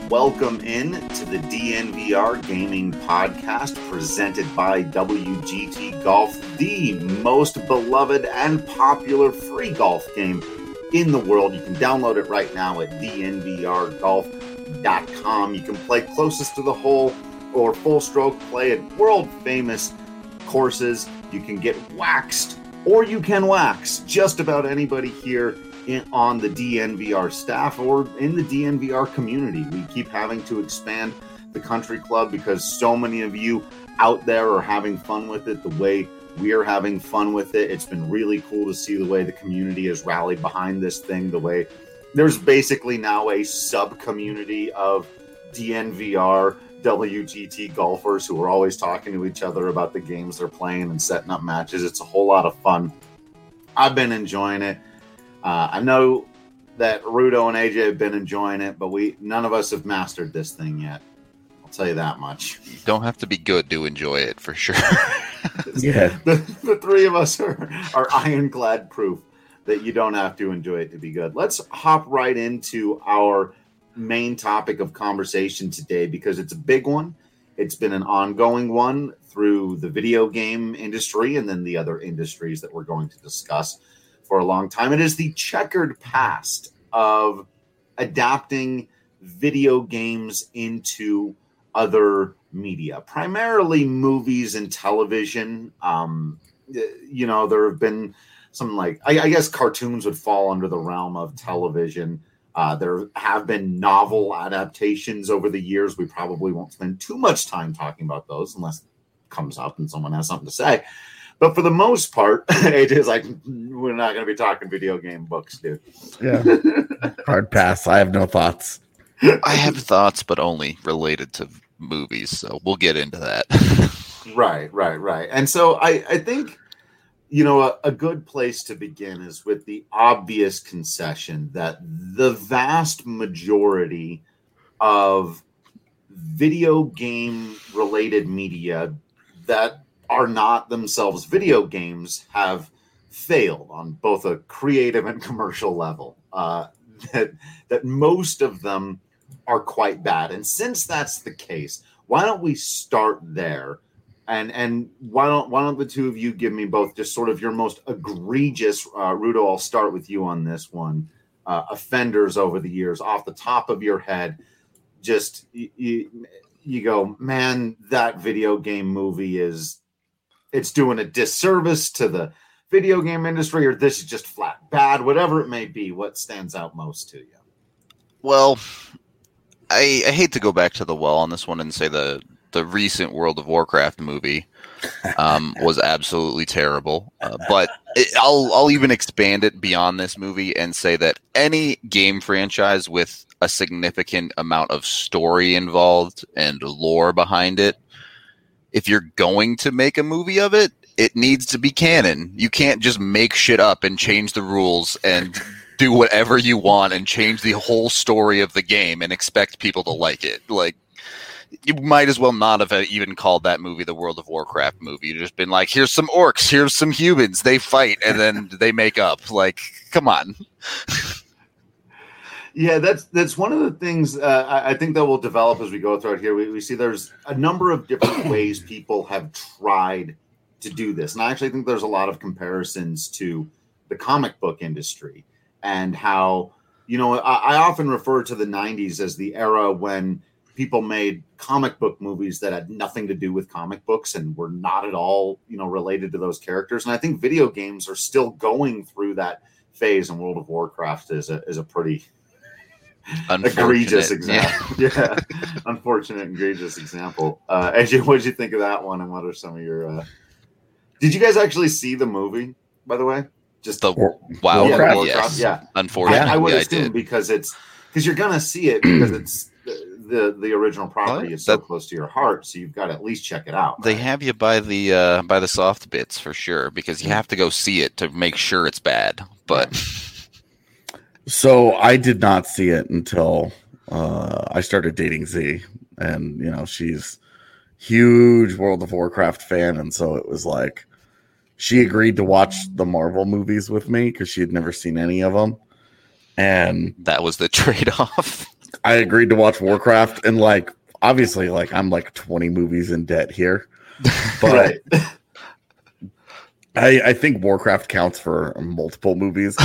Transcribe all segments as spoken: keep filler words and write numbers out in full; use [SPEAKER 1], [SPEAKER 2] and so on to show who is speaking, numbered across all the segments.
[SPEAKER 1] Welcome in to the D N V R Gaming Podcast presented by W G T Golf, the most beloved and popular free golf game in the world. You can download it right now at D N V R golf dot com. You can play closest to the hole or full stroke play at world famous courses. You can get waxed or you can wax just about anybody here In, on the D N V R staff or in the D N V R community. We keep having to expand the country club because so many of you out there are having fun with it the way we're having fun with it. It's been really cool to see the way the community has rallied behind this thing, the way there's basically now a sub-community of D N V R W G T golfers who are always talking to each other about the games they're playing and setting up matches. It's a whole lot of fun. I've been enjoying it. Uh, I know that Rudo and A J have been enjoying it, but we none of us have mastered this thing yet. I'll tell you that much.
[SPEAKER 2] You don't have to be good to enjoy it, for sure.
[SPEAKER 1] Yeah, the, the three of us are, are ironclad proof that you don't have to enjoy it to be good. Let's hop right into our main topic of conversation today because it's a big one. It's been an ongoing one through the video game industry and then the other industries that we're going to discuss for a long time. It is the checkered past of adapting video games into other media, primarily movies and television. Um, you know, there have been some like, I, I guess cartoons would fall under the realm of television. Uh, there have been novel adaptations over the years. We probably won't spend too much time talking about those unless it comes up and someone has something to say. But for the most part, it is like, we're not going to be talking video game books, dude.
[SPEAKER 3] Yeah. Hard pass. I have no thoughts.
[SPEAKER 2] I have thoughts, but only related to movies. So we'll get into that.
[SPEAKER 1] Right, right, right. And so I, I think, you know, a, a good place to begin is with the obvious concession that the vast majority of video game related media that are not themselves video games have failed on both a creative and commercial level. Uh, that, that most of them are quite bad. And since that's the case, why don't we start there? And and why don't why don't the two of you give me both just sort of your most egregious, uh, Rudo, I'll start with you on this one, uh, offenders over the years, off the top of your head, just you, you, you go, man, that video game movie is, it's doing a disservice to the video game industry, or this is just flat bad, whatever it may be. What stands out most to you?
[SPEAKER 2] Well, I, I hate to go back to the well on this one and say the, the recent World of Warcraft movie um, was absolutely terrible. Uh, but it, I'll, I'll even expand it beyond this movie and say that any game franchise with a significant amount of story involved and lore behind it, if you're going to make a movie of it, it needs to be canon. You can't just make shit up and change the rules and do whatever you want and change the whole story of the game and expect people to like it. Like, you might as well not have even called that movie the World of Warcraft movie. You've just been like, here's some orcs, here's some humans, they fight, and then they make up. Like, come on.
[SPEAKER 1] Yeah, that's that's one of the things uh, I, I think that will develop as we go through it here. We, we see there's a number of different ways people have tried to do this. And I actually think there's a lot of comparisons to the comic book industry and how, you know, I, I often refer to the nineties as the era when people made comic book movies that had nothing to do with comic books and were not at all, you know, related to those characters. And I think video games are still going through that phase, and World of Warcraft is a, is a pretty egregious example. Yeah. yeah. Unfortunate, egregious example. Uh, A J, what did you think of that one? And what are some of your, uh, did you guys actually see the movie, by the way? Just
[SPEAKER 2] the Wow.
[SPEAKER 1] Yeah,
[SPEAKER 2] Warcraft,
[SPEAKER 1] Warcraft,
[SPEAKER 2] yes.
[SPEAKER 1] yeah.
[SPEAKER 2] Unfortunately,
[SPEAKER 1] I, I would
[SPEAKER 2] I
[SPEAKER 1] assume
[SPEAKER 2] did.
[SPEAKER 1] because it's, because you're going to see it because it's the, the, the original property
[SPEAKER 2] Well,
[SPEAKER 1] is so
[SPEAKER 2] that-
[SPEAKER 1] close to your heart. So you've got to at least check it out.
[SPEAKER 2] They
[SPEAKER 1] right?
[SPEAKER 2] have you by the uh, by the soft bits for sure, because you have to go see it to make sure it's bad. But
[SPEAKER 3] So I did not see it until uh, I started dating Z, and you know she's huge World of Warcraft fan, and so it was like she agreed to watch the Marvel movies with me because she had never seen any of them, and
[SPEAKER 2] that was the trade-off.
[SPEAKER 3] I agreed to watch Warcraft, and like obviously, like I'm like twenty movies in debt here, but I, I think Warcraft counts for multiple movies.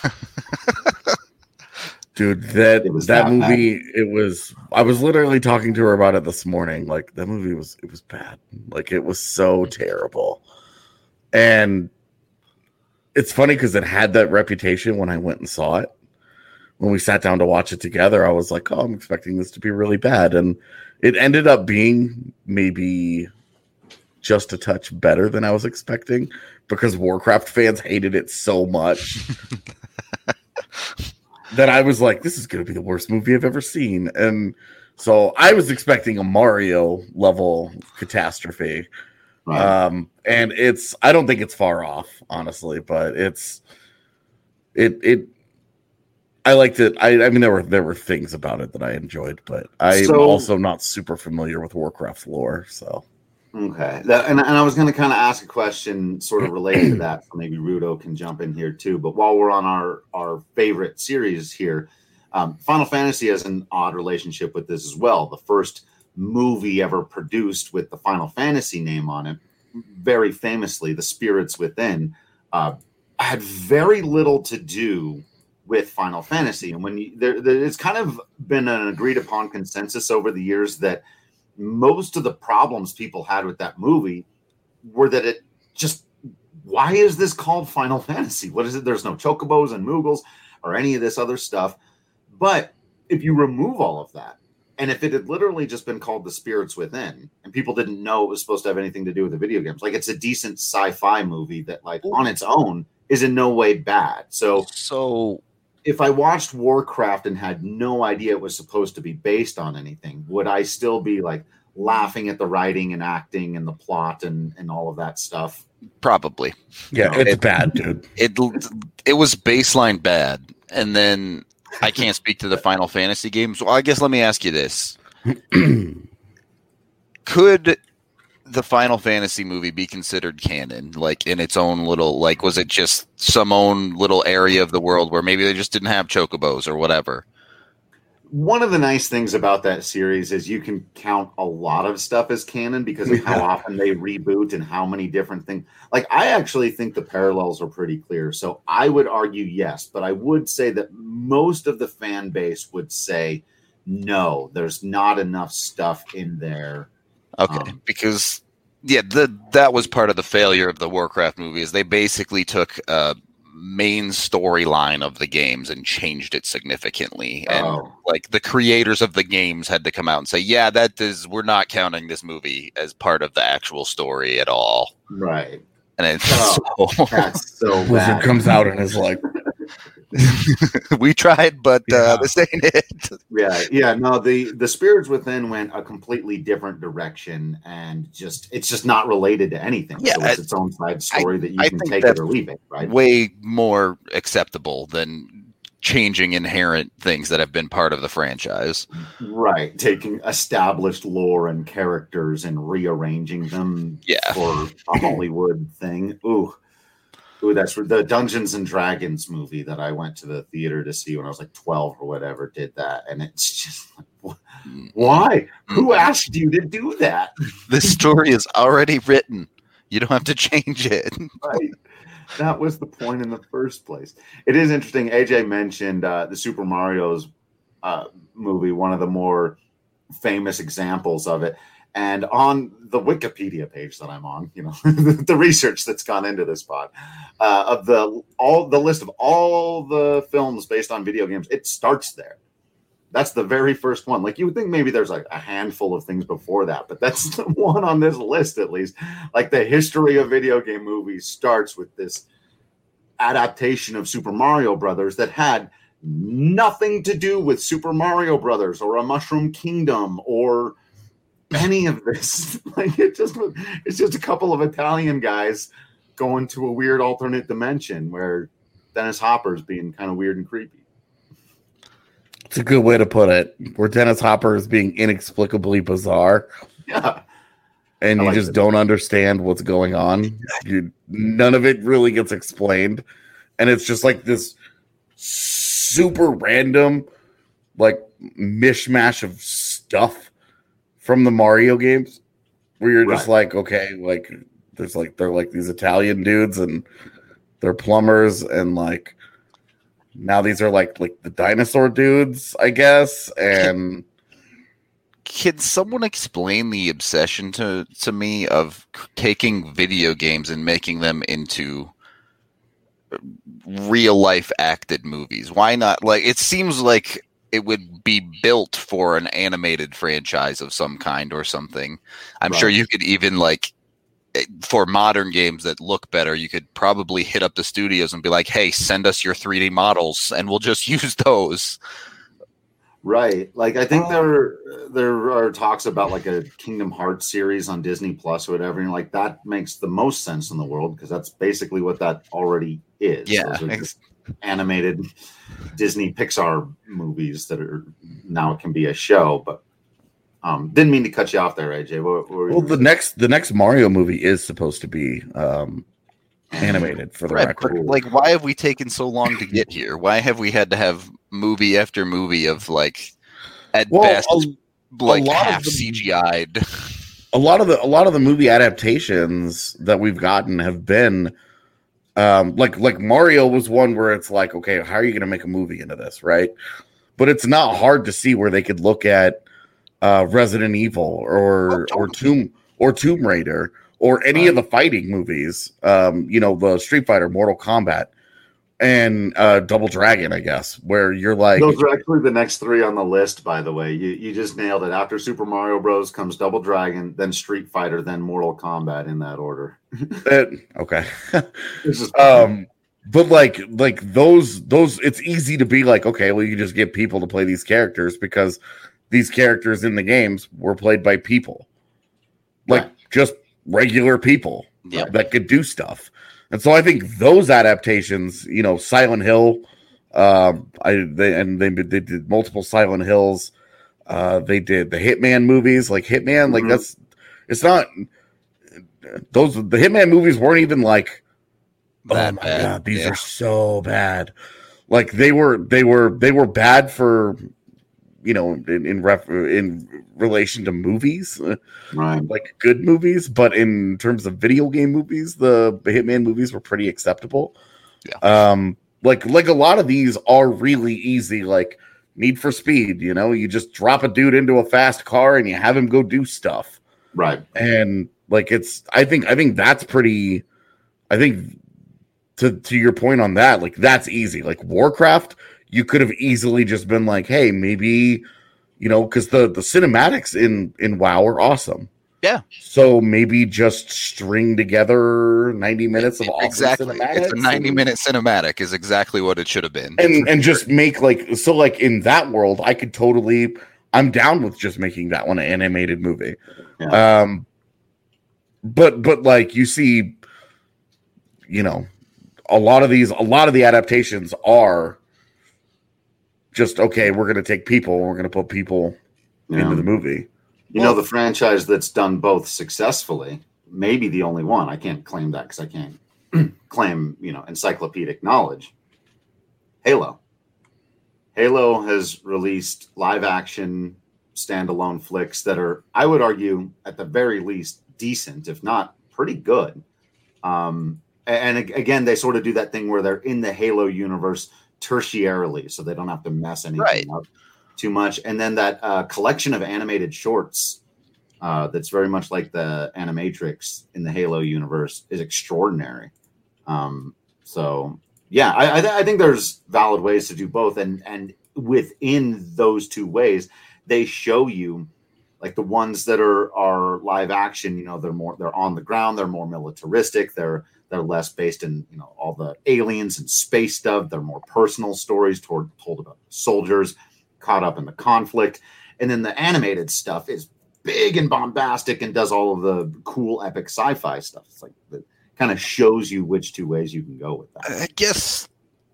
[SPEAKER 3] Dude, that that, that movie, bad. It was. I was literally talking to her about it this morning. Like that movie was, it was bad. Like it was so terrible, and it's funny because it had that reputation when I went and saw it. When we sat down to watch it together, I was like, "Oh, I'm expecting this to be really bad," and it ended up being maybe just a touch better than I was expecting because Warcraft fans hated it so much that I was like, "This is going to be the worst movie I've ever seen," and so I was expecting a Mario level catastrophe. Right. Um, and it's I don't think it's far off, honestly, but it's it it. I liked it. I, I mean, there were there were things about it that I enjoyed, but I'm so, also not super familiar with Warcraft lore. So,
[SPEAKER 1] okay, that, and and I was going to kind of ask a question sort of related to that. So maybe Rudo can jump in here too. But while we're on our our favorite series here, um, Final Fantasy has an odd relationship with this as well. The first movie ever produced with the Final Fantasy name on it, very famously, The Spirits Within, uh, had very little to do with Final Fantasy. And when you, there, there, it's kind of been an agreed upon consensus over the years that most of the problems people had with that movie were that it just, why is this called Final Fantasy? What is it? There's no chocobos and Moogles or any of this other stuff. But if you remove all of that, and if it had literally just been called The Spirits Within, and people didn't know it was supposed to have anything to do with the video games, like it's a decent sci-fi movie that, like, on its own is in no way bad. So,
[SPEAKER 2] so
[SPEAKER 1] if I watched Warcraft and had no idea it was supposed to be based on anything, would I still be like laughing at the writing and acting and the plot and, and all of that stuff?
[SPEAKER 2] Probably.
[SPEAKER 3] Yeah,
[SPEAKER 2] no,
[SPEAKER 3] it's
[SPEAKER 2] it,
[SPEAKER 3] bad, dude.
[SPEAKER 2] It it was baseline bad, and then I can't speak to the Final Fantasy games. Well, I guess let me ask you this: could the Final Fantasy movie be considered canon, like in its own little, like, was it just some own little area of the world where maybe they just didn't have chocobos or whatever?
[SPEAKER 1] One of the nice things about that series is you can count a lot of stuff as canon because of how often they reboot and how many different things. Like, I actually think the parallels are pretty clear. So I would argue yes, but I would say that most of the fan base would say no, there's not enough stuff in there.
[SPEAKER 2] Okay,
[SPEAKER 1] um,
[SPEAKER 2] because yeah, the that was part of the failure of the Warcraft movie is they basically took a main storyline of the games and changed it significantly, and
[SPEAKER 1] oh.
[SPEAKER 2] like the creators of the games had to come out and say, yeah, that is, we're not counting this movie as part of the actual story at all.
[SPEAKER 1] Right.
[SPEAKER 2] And it's
[SPEAKER 1] oh,
[SPEAKER 2] so
[SPEAKER 1] that's so bad.
[SPEAKER 3] Blizzard comes out and is like,
[SPEAKER 2] we tried, but uh,
[SPEAKER 3] Yeah.
[SPEAKER 2] this ain't it.
[SPEAKER 1] Yeah, yeah, no, the the Spirits Within went a completely different direction, and just it's just not related to anything.
[SPEAKER 2] Yeah,
[SPEAKER 1] so it's
[SPEAKER 2] I-
[SPEAKER 1] its own side story
[SPEAKER 2] I-
[SPEAKER 1] that you
[SPEAKER 2] I
[SPEAKER 1] can
[SPEAKER 2] think
[SPEAKER 1] take
[SPEAKER 2] that's
[SPEAKER 1] it or leave it, right?
[SPEAKER 2] Way more acceptable than changing inherent things that have been part of the franchise.
[SPEAKER 1] Right, taking established lore and characters and rearranging them
[SPEAKER 2] Yeah.
[SPEAKER 1] for a Hollywood thing. Ooh. Ooh, that's the Dungeons and Dragons movie that I went to the theater to see when I was like twelve or whatever did that. And it's just like, why? Who asked you to do that?
[SPEAKER 2] This story is already written. You don't have to change it.
[SPEAKER 1] Right. That was the point in the first place. It is interesting. A J mentioned uh, the Super Mario's uh, movie, one of the more famous examples of it. And on the Wikipedia page that I'm on, you know, the research that's gone into this pod, uh, of the all the list of all the films based on video games, it starts there. That's the very first one. Like, you would think maybe there's like a handful of things before that, but that's the one on this list, at least. Like, the history of video game movies starts with this adaptation of Super Mario Brothers that had nothing to do with Super Mario Brothers or a Mushroom Kingdom or any of this. Like, it just it's just a couple of Italian guys going to a weird alternate dimension where Dennis Hopper's being kind of weird and creepy.
[SPEAKER 3] it's a good way to put it, where Dennis Hopper is being inexplicably bizarre.
[SPEAKER 1] Yeah.
[SPEAKER 3] And
[SPEAKER 1] I
[SPEAKER 3] you
[SPEAKER 1] like
[SPEAKER 3] just
[SPEAKER 1] it.
[SPEAKER 3] don't understand what's going on. You, none of it really gets explained. And it's just like this super random, like, mishmash of stuff from the Mario games, where you're just
[SPEAKER 1] Right.
[SPEAKER 3] like, okay, like there's like they're like these Italian dudes and they're plumbers, and like now these are like like the dinosaur dudes, I guess, and.
[SPEAKER 2] Can someone explain the obsession to, to me of taking video games and making them into real life acted movies? Why not? Like, it seems like it would be built for an animated franchise of some kind or something. I'm
[SPEAKER 1] Right.
[SPEAKER 2] sure you could even like for modern games that look better, you could probably hit up the studios and be like, hey, send us your three D models and we'll just use those.
[SPEAKER 1] Right. Like I think
[SPEAKER 3] Um,
[SPEAKER 1] there there are talks about like a Kingdom Hearts series on Disney Plus or whatever, and like that makes the most sense in the world because that's basically what that already is.
[SPEAKER 2] Yeah,
[SPEAKER 1] Those are
[SPEAKER 2] ex-
[SPEAKER 1] just animated Disney Pixar movies that are now it can be a show, but um didn't mean to cut you off there, A J. What, what were you
[SPEAKER 3] Well, the next the next Mario movie is supposed to be um, animated for the
[SPEAKER 2] Right,
[SPEAKER 3] record.
[SPEAKER 2] but, like, why have we taken so long to get here? Why have we had to have movie after movie of like at
[SPEAKER 3] Well,
[SPEAKER 2] best
[SPEAKER 3] a,
[SPEAKER 2] like
[SPEAKER 3] lot of
[SPEAKER 2] half
[SPEAKER 3] them-
[SPEAKER 2] C G I'd?
[SPEAKER 3] a lot of the a lot of the movie adaptations that we've gotten have been um, like like Mario was one where it's like, okay, how are you going to make a movie into this, right? But it's not hard to see where they could look at uh, Resident Evil or
[SPEAKER 2] Oh,
[SPEAKER 3] or Tomb or Tomb Raider or any of the fighting movies, um, you know, the Street Fighter, Mortal Kombat, and uh, Double Dragon, I guess, where you're like,
[SPEAKER 1] Those are actually the next three on the list, by the way. You you just nailed it. After Super Mario Bros. Comes Double Dragon, then Street Fighter, then Mortal Kombat in that order.
[SPEAKER 3] eh, okay.
[SPEAKER 1] It's just,
[SPEAKER 3] um but like like those those it's easy to be like, okay, well, you just get people to play these characters because these characters in the games were played by people, like
[SPEAKER 1] Right.
[SPEAKER 3] just regular people
[SPEAKER 2] Yep.
[SPEAKER 3] that could do stuff. And so I think those adaptations, you know, Silent Hill, um I they and they, they did multiple Silent Hills, uh they did the Hitman movies, like Hitman, like
[SPEAKER 1] Mhm.
[SPEAKER 3] that's it's not those the Hitman movies weren't even like,
[SPEAKER 2] That
[SPEAKER 3] oh my
[SPEAKER 2] bad.
[SPEAKER 3] god, these
[SPEAKER 2] Yeah.
[SPEAKER 3] are so bad. Like they were, they were, they were bad for, you know, in in, ref, in relation to movies, uh,
[SPEAKER 1] right.
[SPEAKER 3] like good movies. But in terms of video game movies, the, the Hitman movies were pretty acceptable.
[SPEAKER 2] Yeah.
[SPEAKER 3] Um, like like a lot of these are really easy. Like Need for Speed, you know, you just drop a dude into a fast car and you have him go do stuff.
[SPEAKER 1] Right.
[SPEAKER 3] And like it's, I think, I think that's pretty. I think. To, to your point on that, like that's easy. Like Warcraft, you could have easily just been like, hey, maybe, you know, because the, the cinematics in, in WoW are awesome.
[SPEAKER 2] Yeah.
[SPEAKER 3] So maybe just string together ninety minutes of awesome
[SPEAKER 2] Exactly.
[SPEAKER 3] cinematics.
[SPEAKER 2] It's a ninety
[SPEAKER 3] and,
[SPEAKER 2] minute cinematic is exactly what it should have been.
[SPEAKER 3] and and just make like so like in that world, I could totally I'm down with just making that one an animated movie.
[SPEAKER 1] Yeah.
[SPEAKER 3] Um but but like you see, you know, a lot of these, a lot of the adaptations are just okay. We're going to take people, and we're going to put people
[SPEAKER 1] Yeah.
[SPEAKER 3] into the movie.
[SPEAKER 1] You know, the franchise that's done both successfully, maybe the only one. I can't claim that because I can't claim, you know, encyclopedic knowledge. Halo. Halo has released live action standalone flicks that are, I would argue, at the very least, decent, if not pretty good. Um, and ag- again, they sort of do that thing where they're in the Halo universe tertiarily, so they don't have to mess anything
[SPEAKER 2] Right.
[SPEAKER 1] up too much. And then that uh, collection of animated shorts uh, that's very much like the Animatrix in the Halo universe is extraordinary. Um, so, yeah, I, I, th- I think there's valid ways to do both. And, and within those two ways, they show you like the ones that are, are live action, you know, they're more, they're on the ground, they're more militaristic, they're, they're less based in, you know, all the aliens and space stuff. They're more personal stories toward, told about soldiers caught up in the conflict. And then the animated stuff is big and bombastic and does all of the cool epic sci-fi stuff. It's like it kind of shows you which two ways you can go with that.
[SPEAKER 2] I guess,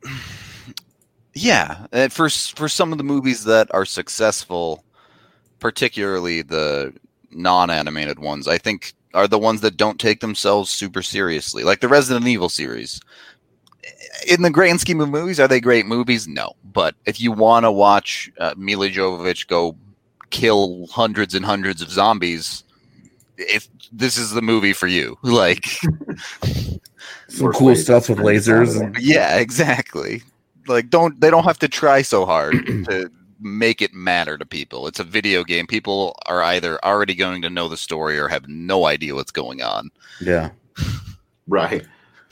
[SPEAKER 2] yeah. uh, For for some of the movies that are successful, particularly the non-animated ones, I think are the ones that don't take themselves super seriously, like the Resident Evil series. in the grand scheme of movies, are they great movies? No. But if you want to watch uh, Mila Jovovich go kill hundreds and hundreds of zombies, if this is the movie for you, like
[SPEAKER 3] some cool stuff with lasers. And-
[SPEAKER 2] yeah, exactly. Like, don't they don't have to try so hard to make it matter to people. It's a video game. People are either already going to know the story or have no idea what's going on.
[SPEAKER 3] Yeah.
[SPEAKER 1] Right.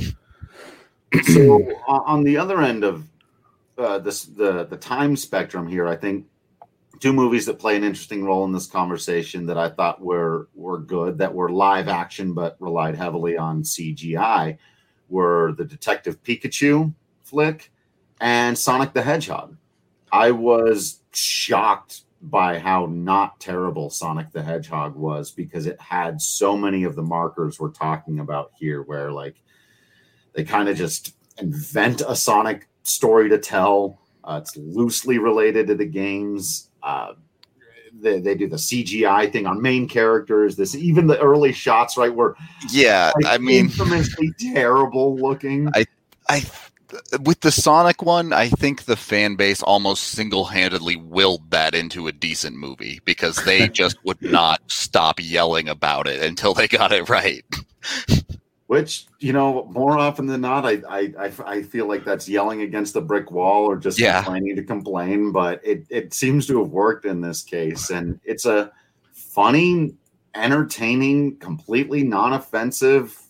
[SPEAKER 1] So uh, on the other end of uh, this, the the time spectrum here, I think two movies that play an interesting role in this conversation that I thought were were good, that were live action but relied heavily on C G I, were the Detective Pikachu flick and Sonic the Hedgehog. I was shocked by how not terrible Sonic the Hedgehog was, because it had so many of the markers we're talking about here, where like they kind of just invent a Sonic story to tell. Uh, it's loosely related to the games. Uh, they, they do the C G I thing on main characters. This, even the early shots, right, were
[SPEAKER 2] yeah,
[SPEAKER 1] like,
[SPEAKER 2] I mean,
[SPEAKER 1] infamously terrible looking.
[SPEAKER 2] I, I, with the Sonic one, I think the fan base almost single-handedly willed that into a decent movie, because they just would not stop yelling about it until they got it right.
[SPEAKER 1] Which, you know, more often than not, I, I I I feel like that's yelling against the brick wall or just
[SPEAKER 2] yeah.
[SPEAKER 1] complaining to complain. But it, it seems to have worked in this case. And it's a funny, entertaining, completely non-offensive,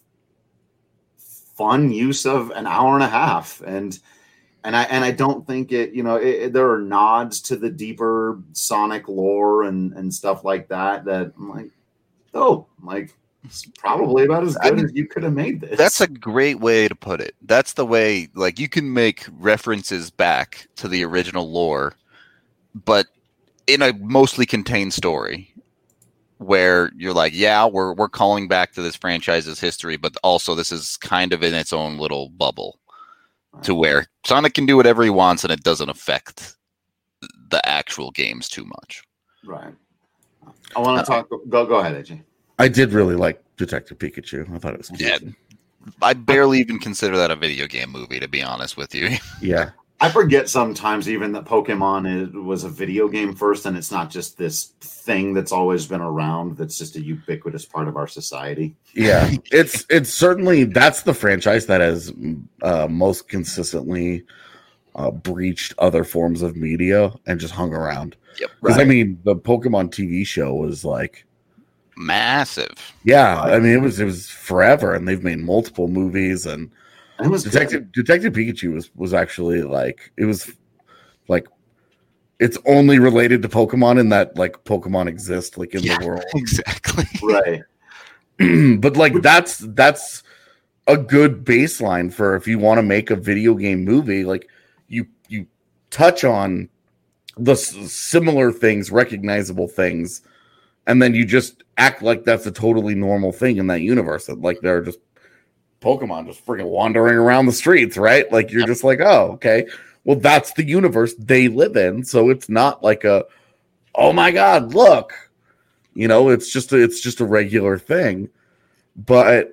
[SPEAKER 1] fun use of an hour and a half. And and I and I don't think it, you know, it, it, there are nods to the deeper Sonic lore and, and stuff like that that I'm like, oh, I'm like, it's probably about as good I mean, as you could have made this.
[SPEAKER 2] That's a great way to put it. That's the way, like, you can make references back to the original lore, but in a mostly contained story where you're like, yeah, we're we're calling back to this franchise's history, but also this is kind of in its own little bubble, right, to where Sonic can do whatever he wants and it doesn't affect the actual games too much.
[SPEAKER 1] Right. I want to uh, talk. Go go ahead, A J.
[SPEAKER 3] I did really like Detective Pikachu. I thought it was cute.
[SPEAKER 2] Yeah, I barely even consider that a video game movie, to be honest with you.
[SPEAKER 3] Yeah.
[SPEAKER 1] I forget sometimes even that Pokemon is, was a video game first, and it's not just this thing that's always been around that's just a ubiquitous part of our society.
[SPEAKER 3] Yeah, it's it's certainly, that's the franchise that has uh, most consistently uh, breached other forms of media and just hung around.
[SPEAKER 2] Yep.
[SPEAKER 3] Because,
[SPEAKER 2] right.
[SPEAKER 3] I mean, the Pokemon T V show was like,
[SPEAKER 2] massive.
[SPEAKER 3] Yeah, I mean it was it was forever, and they've made multiple movies, and
[SPEAKER 1] it was
[SPEAKER 3] Detective good. Detective Pikachu was was actually like, it was like, it's only related to Pokemon in that like Pokemon exist like in
[SPEAKER 2] yeah,
[SPEAKER 3] the world.
[SPEAKER 2] Exactly.
[SPEAKER 1] Right.
[SPEAKER 3] But like that's that's a good baseline for if you want to make a video game movie. Like you you touch on the s- similar things, recognizable things, and then you just act like that's a totally normal thing in that universe. That like they're just Pokemon just freaking wandering around the streets, right? Like you're just like, oh, okay. Well, that's the universe they live in. So it's not like a, oh my God, look. You know, it's just a, it's just a regular thing. But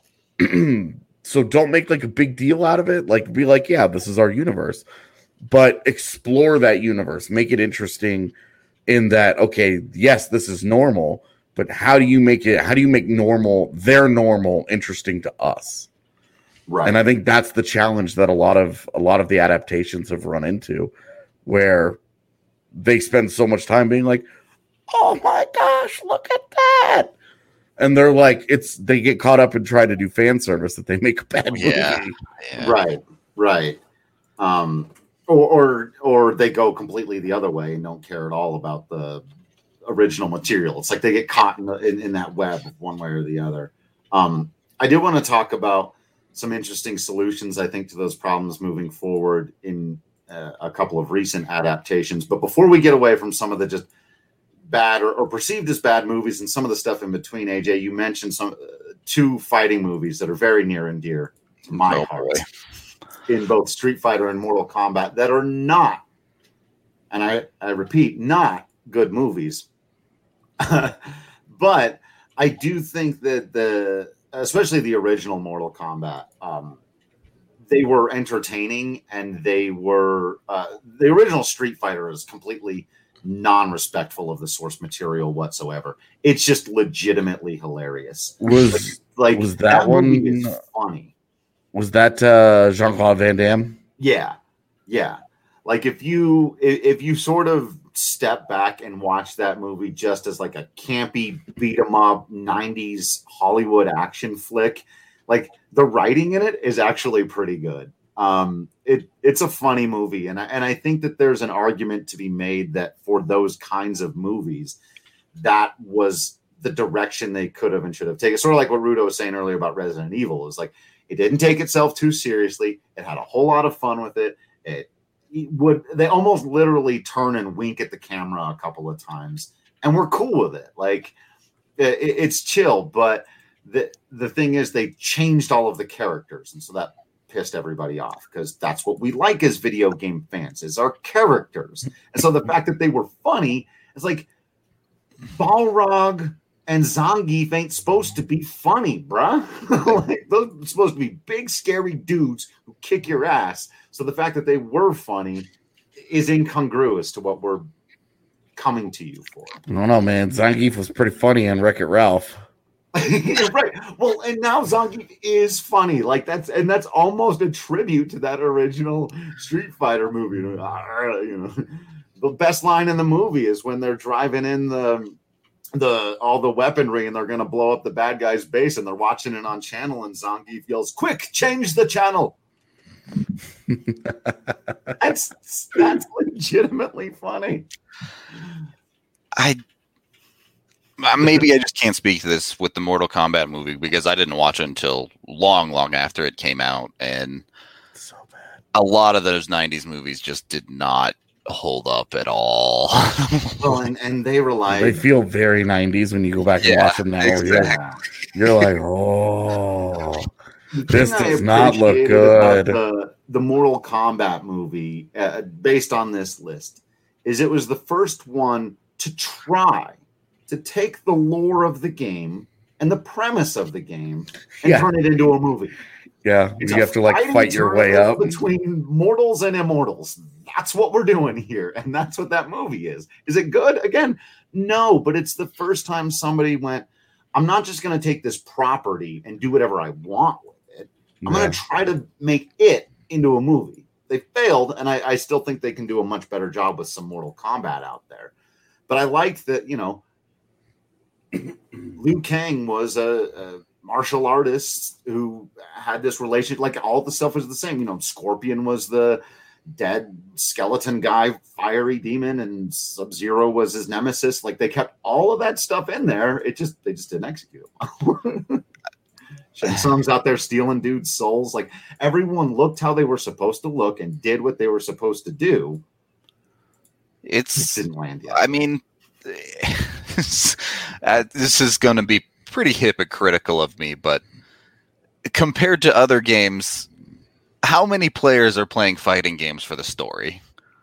[SPEAKER 3] so don't make like a big deal out of it. Like be like, yeah, this is our universe. But explore that universe. Make it interesting in that, okay, yes, this is normal, but how do you make it, how do you make normal, their normal, interesting to us?
[SPEAKER 1] Right.
[SPEAKER 3] And I think that's the challenge that a lot of a lot of the adaptations have run into, where they spend so much time being like, oh my gosh, look at that. And they're like, it's they get caught up and try to do fan service that they make a bad movie.
[SPEAKER 2] Yeah. yeah.
[SPEAKER 1] Right. Right. Um Or, or or they go completely the other way and don't care at all about the original material. It's like they get caught in, the, in, in that web one way or the other. Um, I did want to talk about some interesting solutions, I think, to those problems moving forward in uh, a couple of recent adaptations. But before we get away from some of the just bad or, or perceived as bad movies and some of the stuff in between, A J, you mentioned some uh, two fighting movies that are very near and dear to my
[SPEAKER 2] oh,
[SPEAKER 1] heart. Boy. In both Street Fighter and Mortal Kombat that are not, and I, I repeat, not good movies. But I do think that the, especially the original Mortal Kombat, um, they were entertaining, and they were uh, the original Street Fighter is completely non-respectful of the source material whatsoever. It's just legitimately hilarious.
[SPEAKER 3] Was
[SPEAKER 1] like
[SPEAKER 3] was that,
[SPEAKER 1] that
[SPEAKER 3] one
[SPEAKER 1] movie is funny?
[SPEAKER 3] Was that uh, Jean-Claude Van Damme?
[SPEAKER 1] Yeah, yeah. Like if you if you sort of step back and watch that movie just as like a campy beat 'em up nineties Hollywood action flick, like the writing in it is actually pretty good. Um, it it's a funny movie, and I, and I think that there's an argument to be made that for those kinds of movies, that was the direction they could have and should have taken. Sort of like what Rudo was saying earlier about Resident Evil is like it didn't take itself too seriously. It had a whole lot of fun with it. It, it would they almost literally turn and wink at the camera a couple of times, and we're cool with it. Like it, it's chill, but the the thing is they changed all of the characters, and so that pissed everybody off because that's what we like as video game fans is our characters. And so the fact that they were funny is like Balrog and Zangief ain't supposed to be funny, bruh. Like those are supposed to be big scary dudes who kick your ass. So the fact that they were funny is incongruous to what we're coming to you for.
[SPEAKER 3] I don't know, man. Zangief was pretty funny in Wreck-It Ralph.
[SPEAKER 1] Right. Well, and now Zangief is funny. Like that's and that's almost a tribute to that original Street Fighter movie. You know, the best line in the movie is when they're driving in the the all the weaponry and they're gonna blow up the bad guy's base and they're watching it on channel and Zangief yells, "Quick, change the channel." that's that's legitimately funny.
[SPEAKER 2] I Maybe I just can't speak to this with the Mortal Kombat movie because I didn't watch it until long, long after it came out. And
[SPEAKER 3] so bad.
[SPEAKER 2] A lot of those nineties movies just did not hold up at all.
[SPEAKER 1] Well, and, and they rely.
[SPEAKER 3] They feel very nineties when you go back and
[SPEAKER 2] Yeah,
[SPEAKER 3] watch them now.
[SPEAKER 2] exactly.
[SPEAKER 3] You're, you're like, oh,
[SPEAKER 1] The
[SPEAKER 3] this
[SPEAKER 1] thing I
[SPEAKER 3] does not look
[SPEAKER 1] appreciated
[SPEAKER 3] good.
[SPEAKER 1] about The, the Mortal Kombat movie, uh, based on this list, is it was the first one to try to take the lore of the game and the premise of the game and
[SPEAKER 3] Yeah.
[SPEAKER 1] turn it into a movie.
[SPEAKER 3] Yeah,
[SPEAKER 1] It's
[SPEAKER 3] you
[SPEAKER 1] a
[SPEAKER 3] have to like
[SPEAKER 1] fighting
[SPEAKER 3] fight your way
[SPEAKER 1] tournament
[SPEAKER 3] up.
[SPEAKER 1] between mortals and immortals. That's what we're doing here, and that's what that movie is. Is it good? Again, no, but it's the first time somebody went, I'm not just going to take this property and do whatever I want with it. I'm
[SPEAKER 3] Yeah.
[SPEAKER 1] going to try to make it into a movie. They failed, and I, I still think they can do a much better job with some Mortal Kombat out there. But I like that, you know, Liu Kang was a, a martial artist who had this relationship. Like all the stuff was the same. You know, Scorpion was the dead skeleton guy, fiery demon, and Sub-Zero was his nemesis. Like they kept all of that stuff in there. It just they just didn't execute it. Shang Tsung's out there stealing dudes' souls. Like everyone looked how they were supposed to look and did what they were supposed to do. It
[SPEAKER 2] It's,
[SPEAKER 1] didn't land yet.
[SPEAKER 2] I mean, uh, this is going to be pretty hypocritical of me, but compared to other games, how many players are playing fighting games for the story?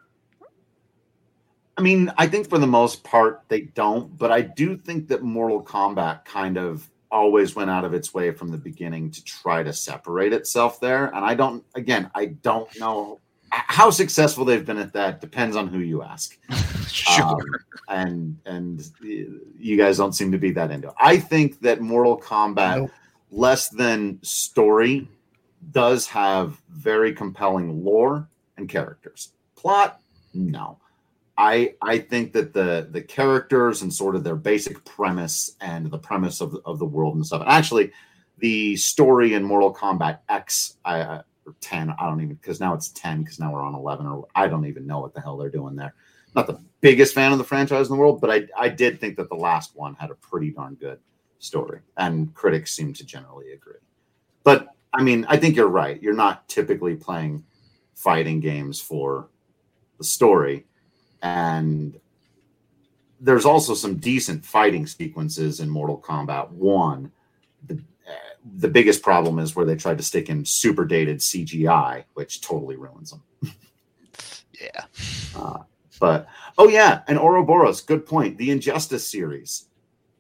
[SPEAKER 1] I mean, I think for the most part they don't, but I do think that Mortal Kombat kind of always went out of its way from the beginning to try to separate itself there. And I don't, again, I don't know how successful they've been at that. Depends on who you ask.
[SPEAKER 2] Sure.
[SPEAKER 1] Um, and and you guys don't seem to be that into it. I think that Mortal Kombat,
[SPEAKER 3] Nope.
[SPEAKER 1] less than story, does have very compelling lore and characters. Plot, no. I I think that the the characters and sort of their basic premise and the premise of the, of the world and stuff. And actually, the story in Mortal Kombat X, I, uh, or ten, I don't even, because now it's ten, because now we're on eleven, or I don't even know what the hell they're doing there. Not the biggest fan of the franchise in the world, but I I did think that the last one had a pretty darn good story, and critics seem to generally agree. But I mean, I think you're right. You're not typically playing fighting games for the story. And there's also some decent fighting sequences in Mortal Kombat one. The, uh, the biggest problem is where they tried to stick in super dated C G I, which totally ruins them.
[SPEAKER 2] Yeah.
[SPEAKER 1] Uh, but, oh yeah, and Ouroboros, good point. The Injustice series.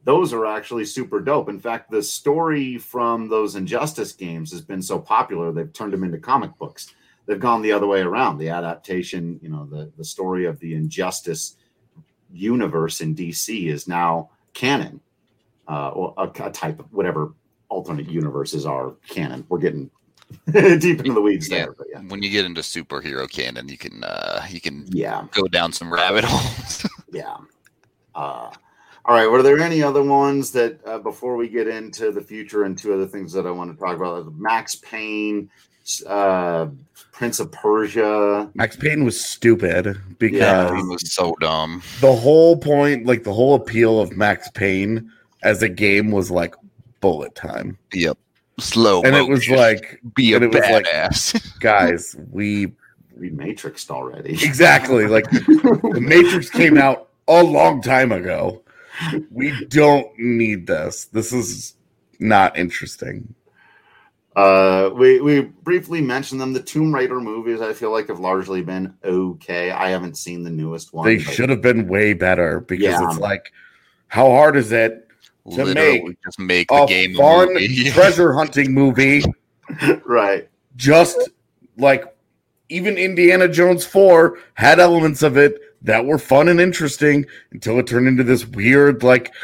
[SPEAKER 1] those are actually super dope. In fact, the story from those Injustice games has been so popular, they've turned them into comic books. They've gone the other way around. The adaptation, you know, the, the story of the Injustice universe in D C is now canon, uh, or a, a type of whatever alternate universes are canon. We're getting deep into the weeds
[SPEAKER 2] yeah.
[SPEAKER 1] there. But yeah.
[SPEAKER 2] When you get into superhero canon, you can uh, you can
[SPEAKER 1] yeah.
[SPEAKER 2] go down some rabbit holes.
[SPEAKER 1] yeah. Uh, all right. Were there any other ones that uh, before we get into the future and two other things that I want to talk about? Max Payne, uh, Prince of Persia.
[SPEAKER 3] Max Payne was stupid because
[SPEAKER 2] yeah, it was so dumb.
[SPEAKER 3] The whole point, like the whole appeal of Max Payne as a game was like bullet time.
[SPEAKER 2] Yep. Slow.
[SPEAKER 3] And it was like
[SPEAKER 2] be a
[SPEAKER 3] and it was
[SPEAKER 2] badass.
[SPEAKER 3] Like, guys, we
[SPEAKER 1] we matrixed already.
[SPEAKER 3] Exactly. Like the Matrix came out a long time ago. We don't need this. This is not interesting.
[SPEAKER 1] Uh, we we briefly mentioned them. The Tomb Raider movies, I feel like, have largely been okay. I haven't seen the newest one.
[SPEAKER 3] They
[SPEAKER 1] but...
[SPEAKER 3] should have been way better because
[SPEAKER 1] yeah.
[SPEAKER 3] it's like, how hard is it to
[SPEAKER 2] Literally
[SPEAKER 3] make
[SPEAKER 2] just make the
[SPEAKER 3] a
[SPEAKER 2] game
[SPEAKER 3] fun
[SPEAKER 2] a movie.
[SPEAKER 3] treasure hunting movie?
[SPEAKER 1] Right.
[SPEAKER 3] Just like even Indiana Jones four had elements of it that were fun and interesting until it turned into this weird, like,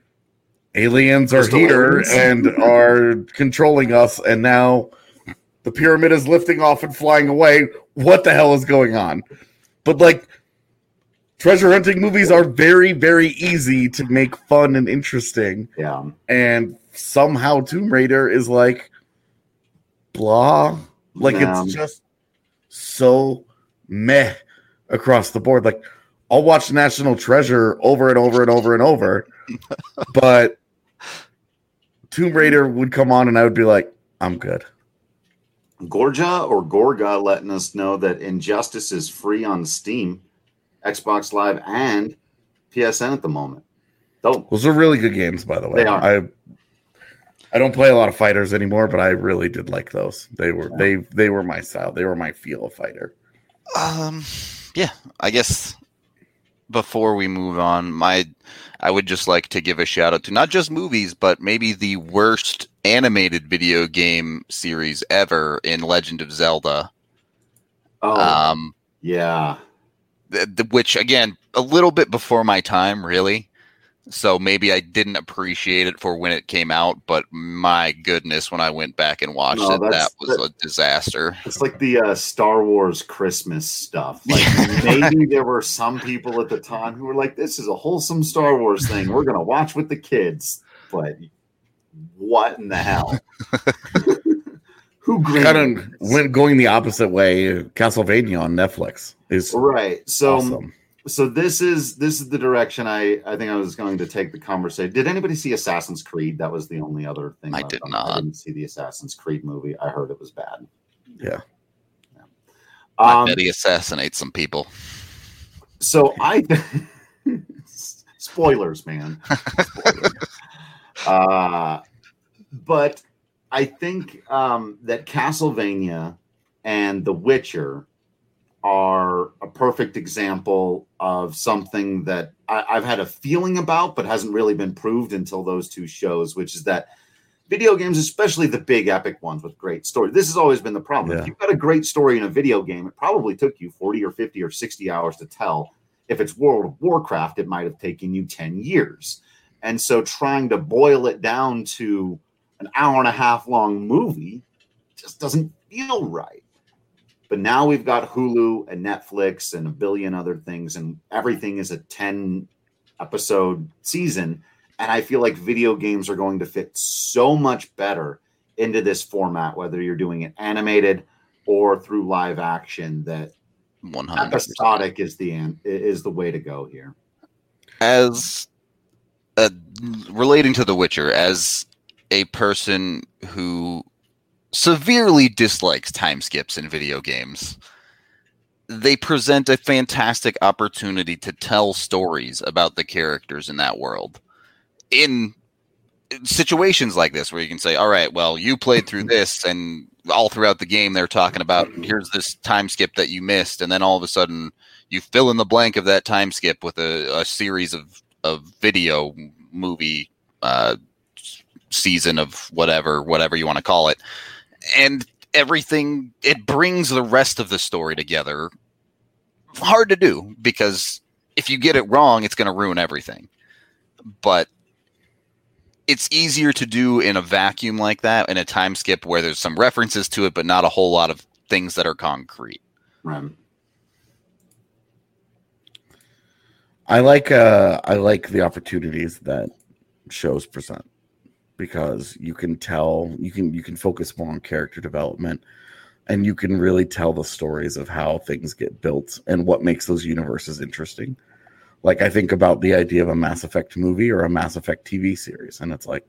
[SPEAKER 3] aliens are
[SPEAKER 1] Crystal
[SPEAKER 3] here
[SPEAKER 1] aliens.
[SPEAKER 3] and are controlling us, and now the pyramid is lifting off and flying away. What the hell is going on? But, like, treasure hunting movies are very, very easy to make fun and interesting.
[SPEAKER 1] Yeah.
[SPEAKER 3] And somehow Tomb Raider is like, blah. Like,
[SPEAKER 1] Yeah.
[SPEAKER 3] it's just so meh across the board. Like, I'll watch National Treasure over and over and over and over, but Tomb Raider would come on and I would be like, I'm good.
[SPEAKER 1] Gorja or Gorga letting us know that Injustice is free on Steam, Xbox Live, and P S N at the moment. Dope.
[SPEAKER 3] Those are really good games, by the way.
[SPEAKER 1] They are.
[SPEAKER 3] I I don't play a lot of fighters anymore, but I really did like those. They were they they were my style. They were my feel of fighter.
[SPEAKER 2] Um, yeah, I guess before we move on, my I would just like to give a shout out to not just movies, but maybe the worst animated video game series ever in Legend of Zelda.
[SPEAKER 1] Oh,
[SPEAKER 2] Um,
[SPEAKER 1] yeah.
[SPEAKER 2] th- th- which again, a little bit before my time, really. So maybe I didn't appreciate it for when it came out, but my goodness, when I went back and watched
[SPEAKER 1] No,
[SPEAKER 2] it, that
[SPEAKER 1] that's-
[SPEAKER 2] was
[SPEAKER 1] that-
[SPEAKER 2] a disaster.
[SPEAKER 1] It's like the uh, Star Wars Christmas stuff. Like maybe there were some people at the time who were like, "This is a wholesome Star Wars thing. We're gonna watch with the kids." But what in the hell? Who
[SPEAKER 3] Kind of went going the opposite way. Castlevania on Netflix is
[SPEAKER 1] right? So,
[SPEAKER 3] awesome.
[SPEAKER 1] so this is this is the direction I I think I was going to take the conversation. Did anybody see Assassin's Creed? That was the only other thing
[SPEAKER 2] I
[SPEAKER 1] left
[SPEAKER 2] did
[SPEAKER 1] on-
[SPEAKER 2] not.
[SPEAKER 1] I didn't see the Assassin's Creed movie. I heard it was bad.
[SPEAKER 3] Yeah.
[SPEAKER 2] I
[SPEAKER 1] Um,
[SPEAKER 2] bet he assassinates some people.
[SPEAKER 1] So I spoilers, man. Spoilers. uh, but I think um, that Castlevania and The Witcher are a perfect example of something that I, I've had a feeling about, but hasn't really been proved until those two shows, which is that video games, especially the big epic ones with great story. This has always been the problem.
[SPEAKER 3] Yeah.
[SPEAKER 1] If you've got a great story in a video game, it probably took you forty or fifty or sixty hours to tell. If it's World of Warcraft, it might have taken you ten years. And so trying to boil it down to an hour and a half long movie just doesn't feel right. But now we've got Hulu and Netflix and a billion other things, and everything is a ten episode season. And I feel like video games are going to fit so much better into this format, whether you're doing it animated or through live action, that
[SPEAKER 2] one hundred percent.
[SPEAKER 1] episodic is the an- is the way to go here.
[SPEAKER 2] As uh, relating to The Witcher, as a person who severely dislikes time skips in video games, they present a fantastic opportunity to tell stories about the characters in that world. In situations like this, where you can say, all right, well, you played through this, and all throughout the game, they're talking about, here's this time skip that you missed, and then all of a sudden, you fill in the blank of that time skip with a, a series of, of video movie uh, season of whatever, whatever you want to call it. And everything, it brings the rest of the story together. Hard to do, because if you get it wrong, it's going to ruin everything. But it's easier to do in a vacuum like that, in a time skip where there's some references to it, but not a whole lot of things that are concrete.
[SPEAKER 1] Right.
[SPEAKER 3] I like uh, I like the opportunities that shows present, because you can tell you can you can focus more on character development, and you can really tell the stories of how things get built and what makes those universes interesting. Like, I think about the idea of a Mass Effect movie or a Mass Effect T V series, and it's like,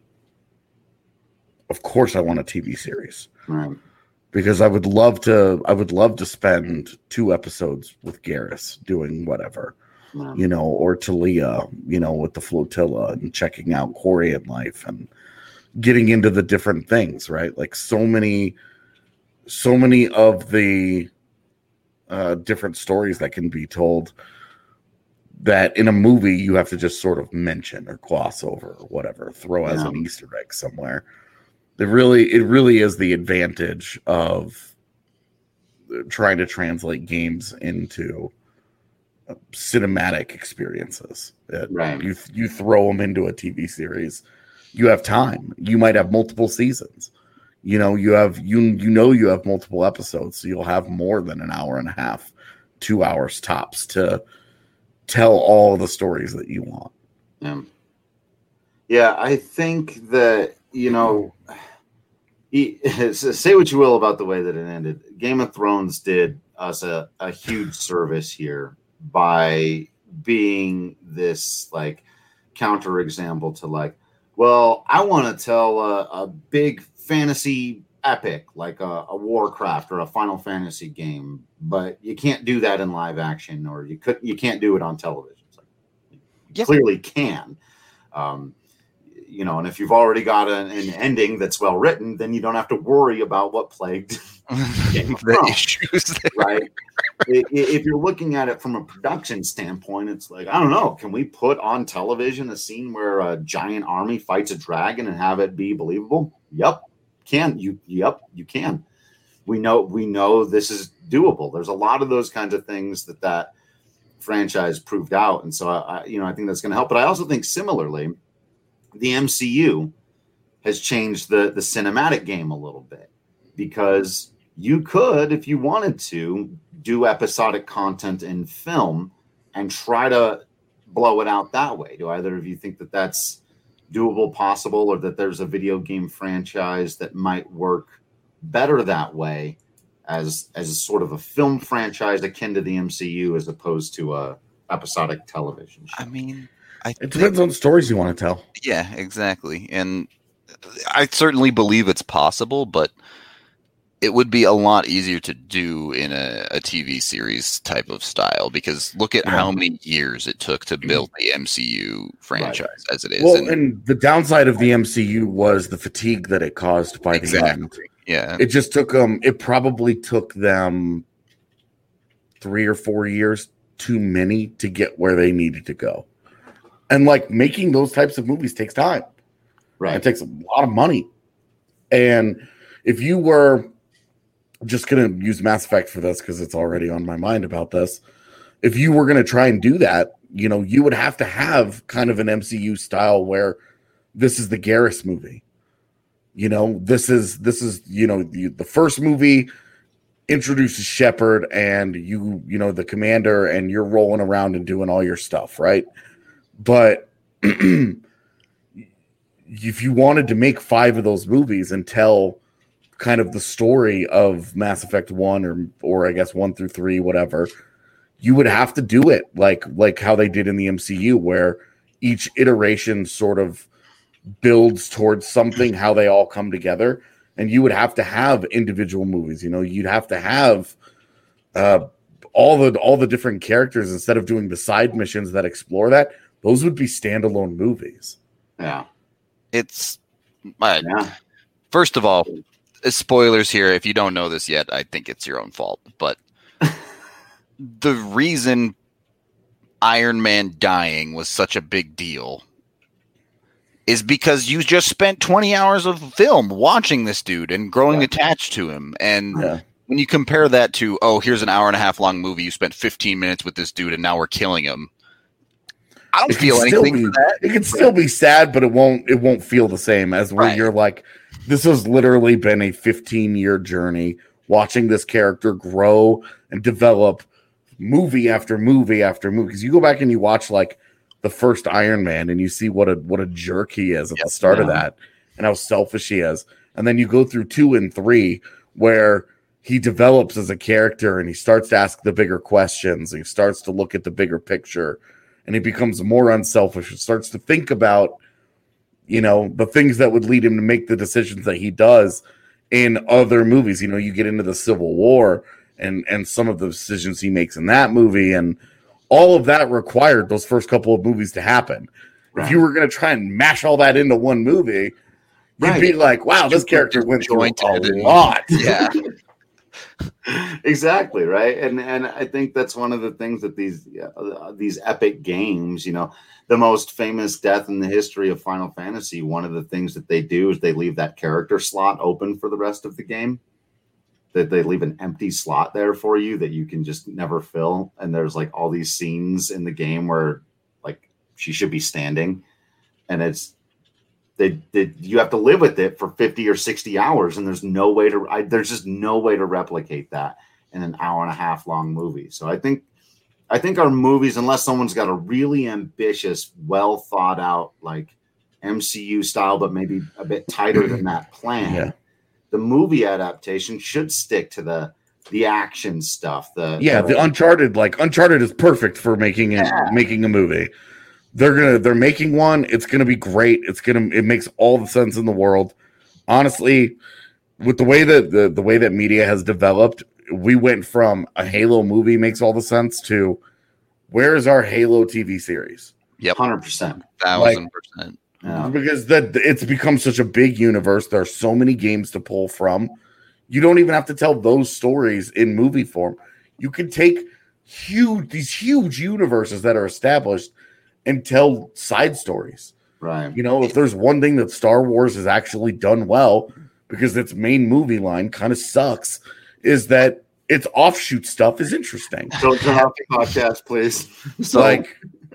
[SPEAKER 3] of course I want a T V series.
[SPEAKER 1] Right.
[SPEAKER 3] Because I would love to I would love to spend two episodes with Garrus doing whatever.
[SPEAKER 1] Yeah.
[SPEAKER 3] You know, or Talia, you know, with the flotilla and checking out Quarian life and getting into the different things, right? Like so many, so many of the uh, different stories that can be told that in a movie you have to just sort of mention or gloss over or whatever, throw as
[SPEAKER 1] Yeah.
[SPEAKER 3] an Easter egg somewhere. It really, it really is the advantage of trying to translate games into cinematic experiences. It,
[SPEAKER 1] Right.
[SPEAKER 3] You you throw them into a T V series, you have time. You might have multiple seasons. You know, you have you you know you have multiple episodes, so you'll have more than an hour and a half, two hours tops to tell all the stories that you want.
[SPEAKER 1] Yeah. Yeah, I think that, you know, he, say what you will about the way that it ended. Game of Thrones did us a, a huge service here by being this like counterexample to like, well, I want to tell a, a big fantasy epic like a, a Warcraft or a Final Fantasy game, but you can't do that in live action, or you could you can't do it on television. It's like, you
[SPEAKER 2] Yep.
[SPEAKER 1] clearly can. Um, you know, and if you've already got an, an ending that's well written, then you don't have to worry about what plagued Game of
[SPEAKER 2] The
[SPEAKER 1] Thrones,
[SPEAKER 2] issues there.
[SPEAKER 1] right? I- i- If you're looking at it from a production standpoint, it's like, I don't know, can we put on television a scene where a giant army fights a dragon and have it be believable? Yep, can you? Yep, you can. We know we know this is doable. There's a lot of those kinds of things that that franchise proved out, and so I, you know, I think that's going to help. But I also think similarly, the M C U has changed the the cinematic game a little bit, because you could, if you wanted to, do episodic content in film and try to blow it out that way. Do either of you think that that's doable, possible, or that there's a video game franchise that might work better that way as as a sort of a film franchise akin to the M C U as opposed to a episodic television show?
[SPEAKER 2] I mean, I
[SPEAKER 3] It
[SPEAKER 2] think,
[SPEAKER 3] depends on the stories you want to tell.
[SPEAKER 2] yeah, exactly. And I certainly believe it's possible, but it would be a lot easier to do in a, a T V series type of style, because look at
[SPEAKER 3] Yeah.
[SPEAKER 2] how many years it took to build the M C U franchise as it is.
[SPEAKER 3] Well,
[SPEAKER 2] And-
[SPEAKER 3] and the downside of the M C U was the fatigue that it caused by the
[SPEAKER 2] exactly.
[SPEAKER 3] end.
[SPEAKER 2] Yeah.
[SPEAKER 3] It just took them, it probably took them three or four years too many to get where they needed to go. And like making those types of movies takes time.
[SPEAKER 1] Right.
[SPEAKER 3] It takes a lot of money. And if you were just going to use Mass Effect for this, because it's already on my mind about this, if you were going to try and do that, you know, you would have to have kind of an M C U style where this is the Garrus movie. You know, this is this is you know the, the first movie introduces Shepard and you you know the commander, and you're rolling around and doing all your stuff, right? But if you wanted to make five of those movies and tell kind of the story of Mass Effect one or or I guess one through three, whatever, you would have to do it like like how they did in the M C U, where each iteration sort of builds towards something, how they all come together. And you would have to have individual movies. You know, you'd have to have uh, all the all the different characters instead of doing the side missions that explore that. Those would be standalone movies.
[SPEAKER 1] Yeah.
[SPEAKER 2] It's uh,
[SPEAKER 1] Yeah.
[SPEAKER 2] first of all, uh, spoilers here. If you don't know this yet, I think it's your own fault. But the reason Iron Man dying was such a big deal is because you just spent twenty hours of film watching this dude and growing
[SPEAKER 1] Yeah.
[SPEAKER 2] attached to him. And
[SPEAKER 3] Yeah.
[SPEAKER 2] when you compare that to, oh, here's an hour and a half long movie, you spent fifteen minutes with this dude and now we're killing him. I don't
[SPEAKER 3] It can
[SPEAKER 2] feel
[SPEAKER 3] still
[SPEAKER 2] anything
[SPEAKER 3] be,
[SPEAKER 2] for that.
[SPEAKER 3] It can still be sad, but it won't it won't feel the same as when
[SPEAKER 2] Right.
[SPEAKER 3] you're like, this has literally been a fifteen year journey watching this character grow and develop movie after movie after movie. Because you go back and you watch like the first Iron Man and you see what a what a jerk he is at
[SPEAKER 2] Yep.
[SPEAKER 3] the start of
[SPEAKER 1] Yeah.
[SPEAKER 3] that and how selfish he is. And then you go through two and three where he develops as a character and he starts to ask the bigger questions. He starts to look at the bigger picture and he becomes more unselfish and starts to think about, you know, the things that would lead him to make the decisions that he does in other movies. You know, you get into the Civil War and and some of the decisions he makes in that movie, and all of that required those first couple of movies to happen.
[SPEAKER 1] Right.
[SPEAKER 3] If you were going to try and mash all that into one movie, you'd
[SPEAKER 1] Right.
[SPEAKER 3] be like, wow, this character went through a
[SPEAKER 2] Disjointed and-
[SPEAKER 3] lot.
[SPEAKER 2] Yeah.
[SPEAKER 1] Exactly, right. And and I think that's one of the things that these uh, these epic games, you know, the most famous death in the history of Final Fantasy, one of the things that they do is they leave that character slot open for the rest of the game. That they leave an empty slot there for you that you can just never fill. And there's like all these scenes in the game where like she should be standing, and it's They, they, you have to live with it for fifty or sixty hours, and there's no way to I, there's just no way to replicate that in an hour and a half long movie. So I think I think our movies, unless someone's got a really ambitious, well thought out like M C U style, but maybe a bit tighter than that plan,
[SPEAKER 3] Yeah.
[SPEAKER 1] the movie adaptation should stick to the the action stuff. The
[SPEAKER 3] Yeah, the Uncharted, like Uncharted is perfect for making it,
[SPEAKER 1] Yeah.
[SPEAKER 3] making a movie. They're gonna they're making one. It's gonna be great. It's gonna it makes all the sense in the world. Honestly, with the way that the, the way that media has developed, we went from a Halo movie makes all the sense to where is our Halo T V series?
[SPEAKER 2] Yep.
[SPEAKER 1] hundred percent.
[SPEAKER 2] Thousand percent.
[SPEAKER 1] Yeah.
[SPEAKER 3] Because that it's become such a big universe. There are so many games to pull from. You don't even have to tell those stories in movie form. You can take huge these huge universes that are established and tell side stories.
[SPEAKER 1] Right.
[SPEAKER 3] You know, if there's one thing that Star Wars has actually done well, because its main movie line kind of sucks, is that its offshoot stuff is interesting.
[SPEAKER 1] Don't turn off the podcast, please.
[SPEAKER 2] So
[SPEAKER 3] like,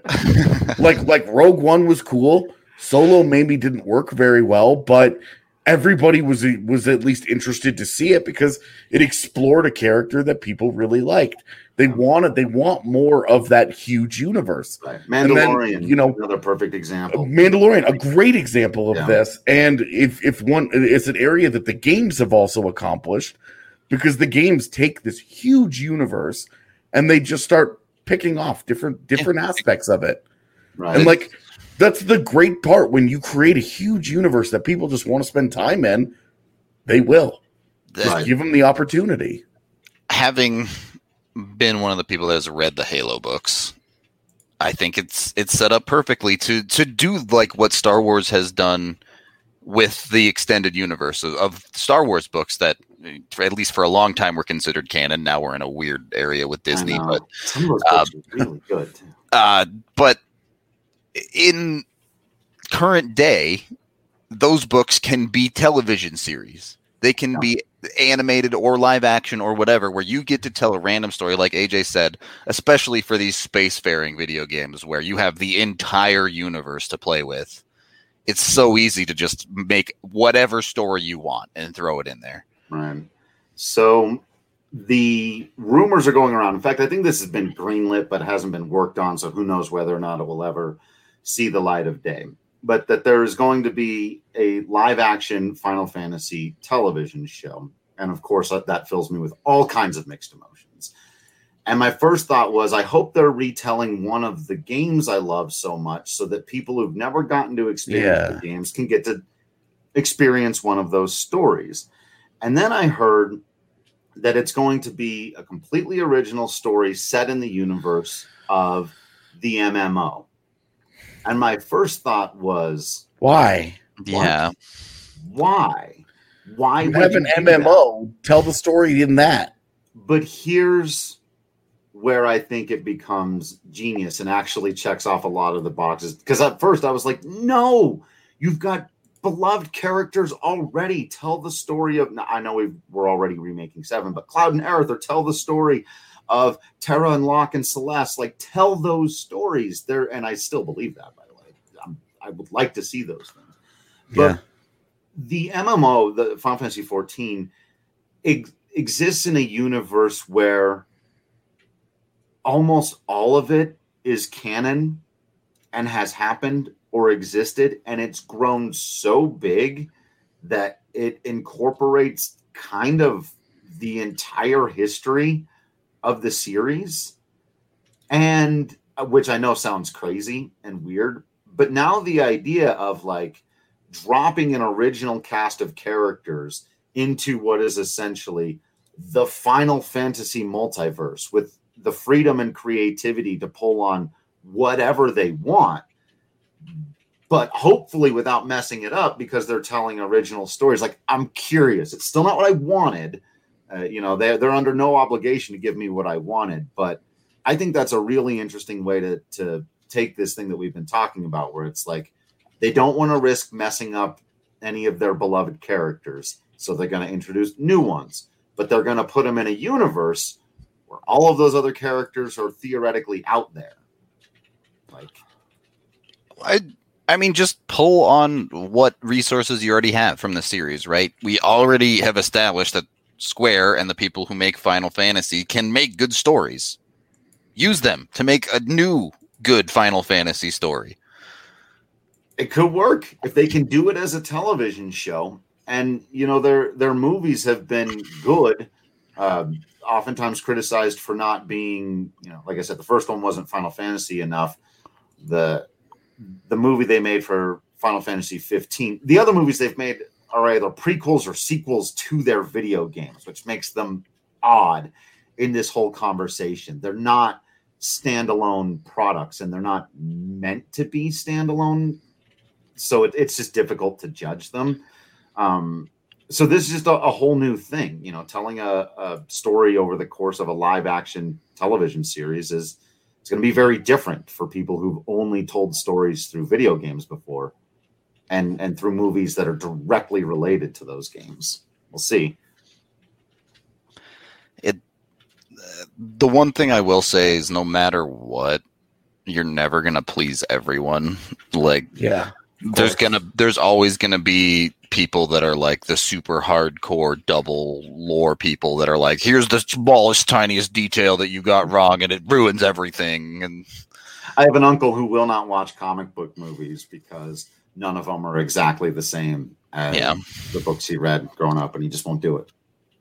[SPEAKER 3] like, like Rogue One was cool. Solo maybe didn't work very well, but everybody was was at least interested to see it because it explored a character that people really liked. They wanted, they want more of that huge universe.
[SPEAKER 1] Right.
[SPEAKER 3] And then,
[SPEAKER 1] Mandalorian,
[SPEAKER 3] you know,
[SPEAKER 1] another perfect example.
[SPEAKER 3] Mandalorian, a great example of
[SPEAKER 1] Yeah.
[SPEAKER 3] this. And if if one, it's an area that the games have also accomplished, because the games take this huge universe and they just start picking off different different aspects of it.
[SPEAKER 1] Right.
[SPEAKER 3] And like that's the great part when you create a huge universe that people just want to spend time in, they will.
[SPEAKER 2] the-
[SPEAKER 3] Just
[SPEAKER 1] Right.
[SPEAKER 3] give them the opportunity.
[SPEAKER 2] having been one of the people that has read the Halo books, I think it's it's set up perfectly to to do like what Star Wars has done with the extended universe of, of Star Wars books that, at least for a long time, were considered canon. Now we're in a weird area with Disney,
[SPEAKER 1] I know.
[SPEAKER 2] but
[SPEAKER 1] some of those
[SPEAKER 2] uh,
[SPEAKER 1] books are really good too.
[SPEAKER 2] uh, but in current day, those books can be television series. They can
[SPEAKER 1] Yeah.
[SPEAKER 2] be animated or live action or whatever, where you get to tell a random story, like A J said, especially for these spacefaring video games where you have the entire universe to play with. It's so easy to just make whatever story you want and throw it in there.
[SPEAKER 1] Right. So the rumors are going around. In fact, I think this has been greenlit, but hasn't been worked on. So who knows whether or not it will ever see the light of day. But that there is going to be a live action Final Fantasy television show. And of course, that, that fills me with all kinds of mixed emotions. And my first thought was, I hope they're retelling one of the games I love so much so that people who've never gotten to experience
[SPEAKER 3] Yeah.
[SPEAKER 1] the games can get to experience one of those stories. And then I heard that it's going to be a completely original story set in the universe of the M M O. And my first thought was,
[SPEAKER 3] Why?
[SPEAKER 2] Yeah.
[SPEAKER 1] why? Why
[SPEAKER 3] You
[SPEAKER 1] would
[SPEAKER 3] have
[SPEAKER 1] you
[SPEAKER 3] an
[SPEAKER 1] do
[SPEAKER 3] M M
[SPEAKER 1] that?
[SPEAKER 3] O. Tell the story in that.
[SPEAKER 1] But here's where I think it becomes genius and actually checks off a lot of the boxes. Because at first I was like, no, You've got beloved characters already. Tell the story of, I know we've, we're already remaking Seven, but Cloud and Aerith, or tell the story of Terra and Locke and Celeste. Like, tell those stories there. And I still believe that, by the way. I'm, I would like to see those things. But
[SPEAKER 3] Yeah.
[SPEAKER 1] the M M O, the Final Fantasy fourteen, ex- exists in a universe where almost all of it is canon and has happened or existed, and it's grown so big that it incorporates kind of the entire history of the series, and uh, which I know sounds crazy and weird, but now the idea of like dropping an original cast of characters into what is essentially the Final Fantasy multiverse with the freedom and creativity to pull on whatever they want, but hopefully without messing it up, because they're telling original stories. Like, I'm curious. It's still not what I wanted. Uh, you know, they're, they're under no obligation to give me what I wanted, but I think that's a really interesting way to, to take this thing that we've been talking about, where it's like, they don't want to risk messing up any of their beloved characters. So they're going to introduce new ones, but they're going to put them in a universe where all of those other characters are theoretically out there. Like,
[SPEAKER 2] I I mean, just pull on what resources you already have from the series, right? We already have established that Square and the people who make Final Fantasy can make good stories. Use them to make a new good Final Fantasy story.
[SPEAKER 1] it could work if they can do it as a television show. And, you know, their their movies have been good, um, oftentimes criticized for not being, you know, like I said, the first one wasn't Final Fantasy enough. The the movie they made for Final Fantasy fifteen, the other movies they've made are either prequels or sequels to their video games, which makes them odd in this whole conversation. They're not standalone products, and they're not meant to be standalone. So it, it's just difficult to judge them. Um, so this is just a, a whole new thing, you know, telling a, a story over the course of a live action television series is, it's going to be very different for people who've only told stories through video games before and, and through movies that are directly related to those games. We'll see.
[SPEAKER 2] It, the one thing I will say is no matter what, you're never going to please everyone. Like,
[SPEAKER 3] yeah,
[SPEAKER 2] there's going to, there's always going to be people that are like the super hardcore double lore people that are like, here's the smallest, tiniest detail that you got wrong and it ruins everything. And
[SPEAKER 1] I have an uncle who will not watch comic book movies because none of them are exactly the same as
[SPEAKER 2] yeah.
[SPEAKER 1] the books he read growing up, and he just won't do it.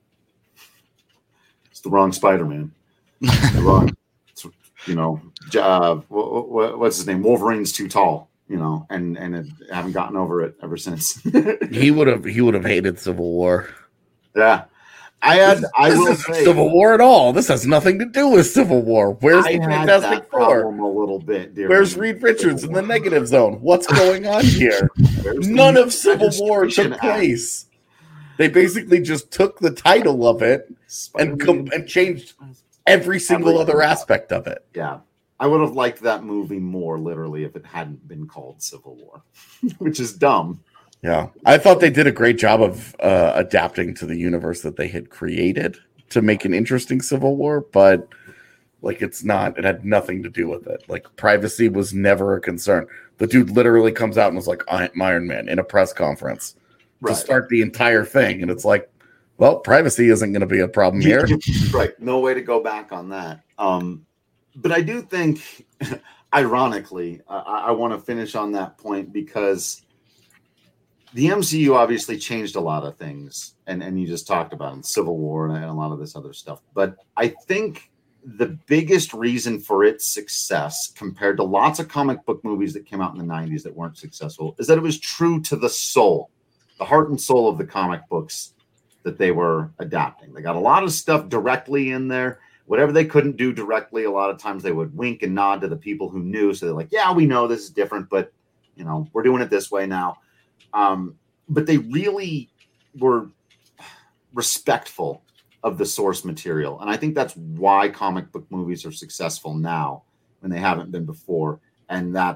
[SPEAKER 1] It's the wrong Spider-Man. It's the wrong, it's, you know, uh, what, what's his name? Wolverine's too tall. You know, and and it, I haven't gotten over it ever since.
[SPEAKER 3] he would have he would have hated Civil War.
[SPEAKER 1] Yeah, I had.
[SPEAKER 3] This,
[SPEAKER 1] I
[SPEAKER 3] this
[SPEAKER 1] will
[SPEAKER 3] isn't
[SPEAKER 1] say,
[SPEAKER 3] Civil War at all. This has nothing to do with Civil War. Where's
[SPEAKER 1] I
[SPEAKER 3] the
[SPEAKER 1] had
[SPEAKER 3] Fantastic
[SPEAKER 1] that
[SPEAKER 3] Four?
[SPEAKER 1] problem a little bit.
[SPEAKER 3] Where's Reed Richards in the negative zone? What's going on here? None of Civil War took place. They basically just took the title of it and com- and changed every single other aspect of it.
[SPEAKER 1] Yeah. I would have liked that movie more, literally, if it hadn't been called Civil War, which is dumb.
[SPEAKER 3] Yeah. I thought they did a great job of uh, adapting to the universe that they had created to make an interesting Civil War, but like it's not, it had nothing to do with it. Like privacy was never a concern. The dude literally comes out and was like, I'm Iron Man in a press conference right. to start the entire thing. And it's like, well, privacy isn't going to be a problem here.
[SPEAKER 1] Right. No way to go back on that. Um, But I do think, ironically, uh, I, I want to finish on that point because the M C U obviously changed a lot of things, and, and you just talked about it, Civil War and a lot of this other stuff. But I think the biggest reason for its success compared to lots of comic book movies that came out in the nineties that weren't successful is that it was true to the soul, the heart and soul of the comic books that they were adapting. They got a lot of stuff directly in there. Whatever they couldn't do directly, a lot of times they would wink and nod to the people who knew. So they're like, yeah, we know this is different, but, you know, we're doing it this way now. Um, but they really were respectful of the source material. And I think that's why comic book movies are successful now when they haven't been before. And that's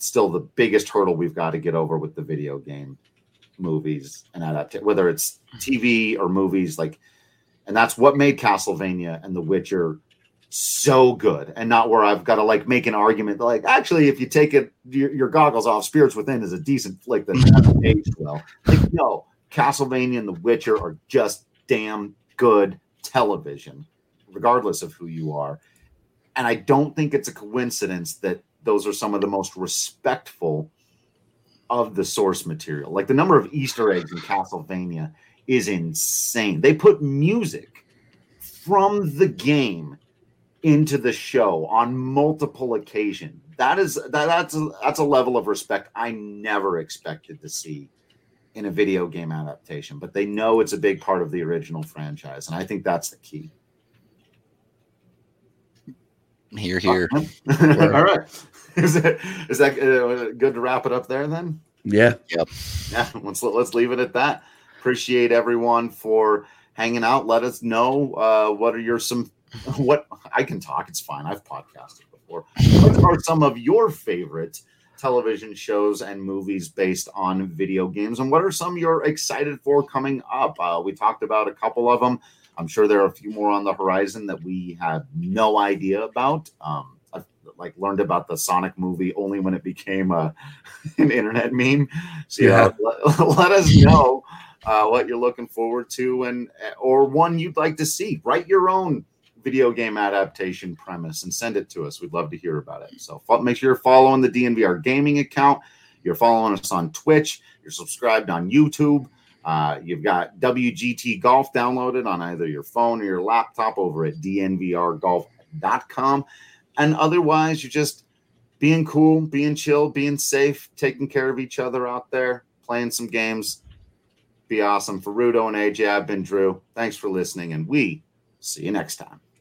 [SPEAKER 1] still the biggest hurdle we've got to get over with the video game movies and adapt, whether it's T V or movies, like, and that's what made Castlevania and The Witcher so good, and not where I've got to like make an argument that, like, actually, if you take it your, your goggles off, Spirits Within is a decent flick that hasn't aged well. Like, no, Castlevania and The Witcher are just damn good television, regardless of who you are. And I don't think it's a coincidence that those are some of the most respectful of the source material. Like, the number of Easter eggs in Castlevania is insane. They put music from the game into the show on multiple occasions. That is that, that's a, that's a level of respect I never expected to see in a video game adaptation. But they know it's a big part of the original franchise, and I think that's the key.
[SPEAKER 2] Here, here.
[SPEAKER 1] All right. Is that is that uh, good to wrap it up there then?
[SPEAKER 3] Yeah.
[SPEAKER 2] Yep.
[SPEAKER 1] Yeah. Let's let's leave it at that. Appreciate everyone for hanging out. Let us know uh, what are your some what I can talk. It's fine. I've podcasted before. What are some of your favorite television shows and movies based on video games, and what are some you're excited for coming up? Uh, we talked about a couple of them. I'm sure there are a few more on the horizon that we have no idea about. Um, I've like learned about the Sonic movie only when it became a an internet meme. So yeah, you know, let, let us know uh, what you're looking forward to, and or one you'd like to see. Write your own video game adaptation premise and send it to us. We'd love to hear about it. So make sure you're following the D N V R gaming account. You're following us on Twitch. You're subscribed on YouTube. Uh, you've got W G T Golf downloaded on either your phone or your laptop over at D N V R golf dot com. And otherwise, you're just being cool, being chill, being safe, taking care of each other out there, playing some games. Be awesome. For Rudo and A J, I've been Drew. Thanks for listening, and we see you next time.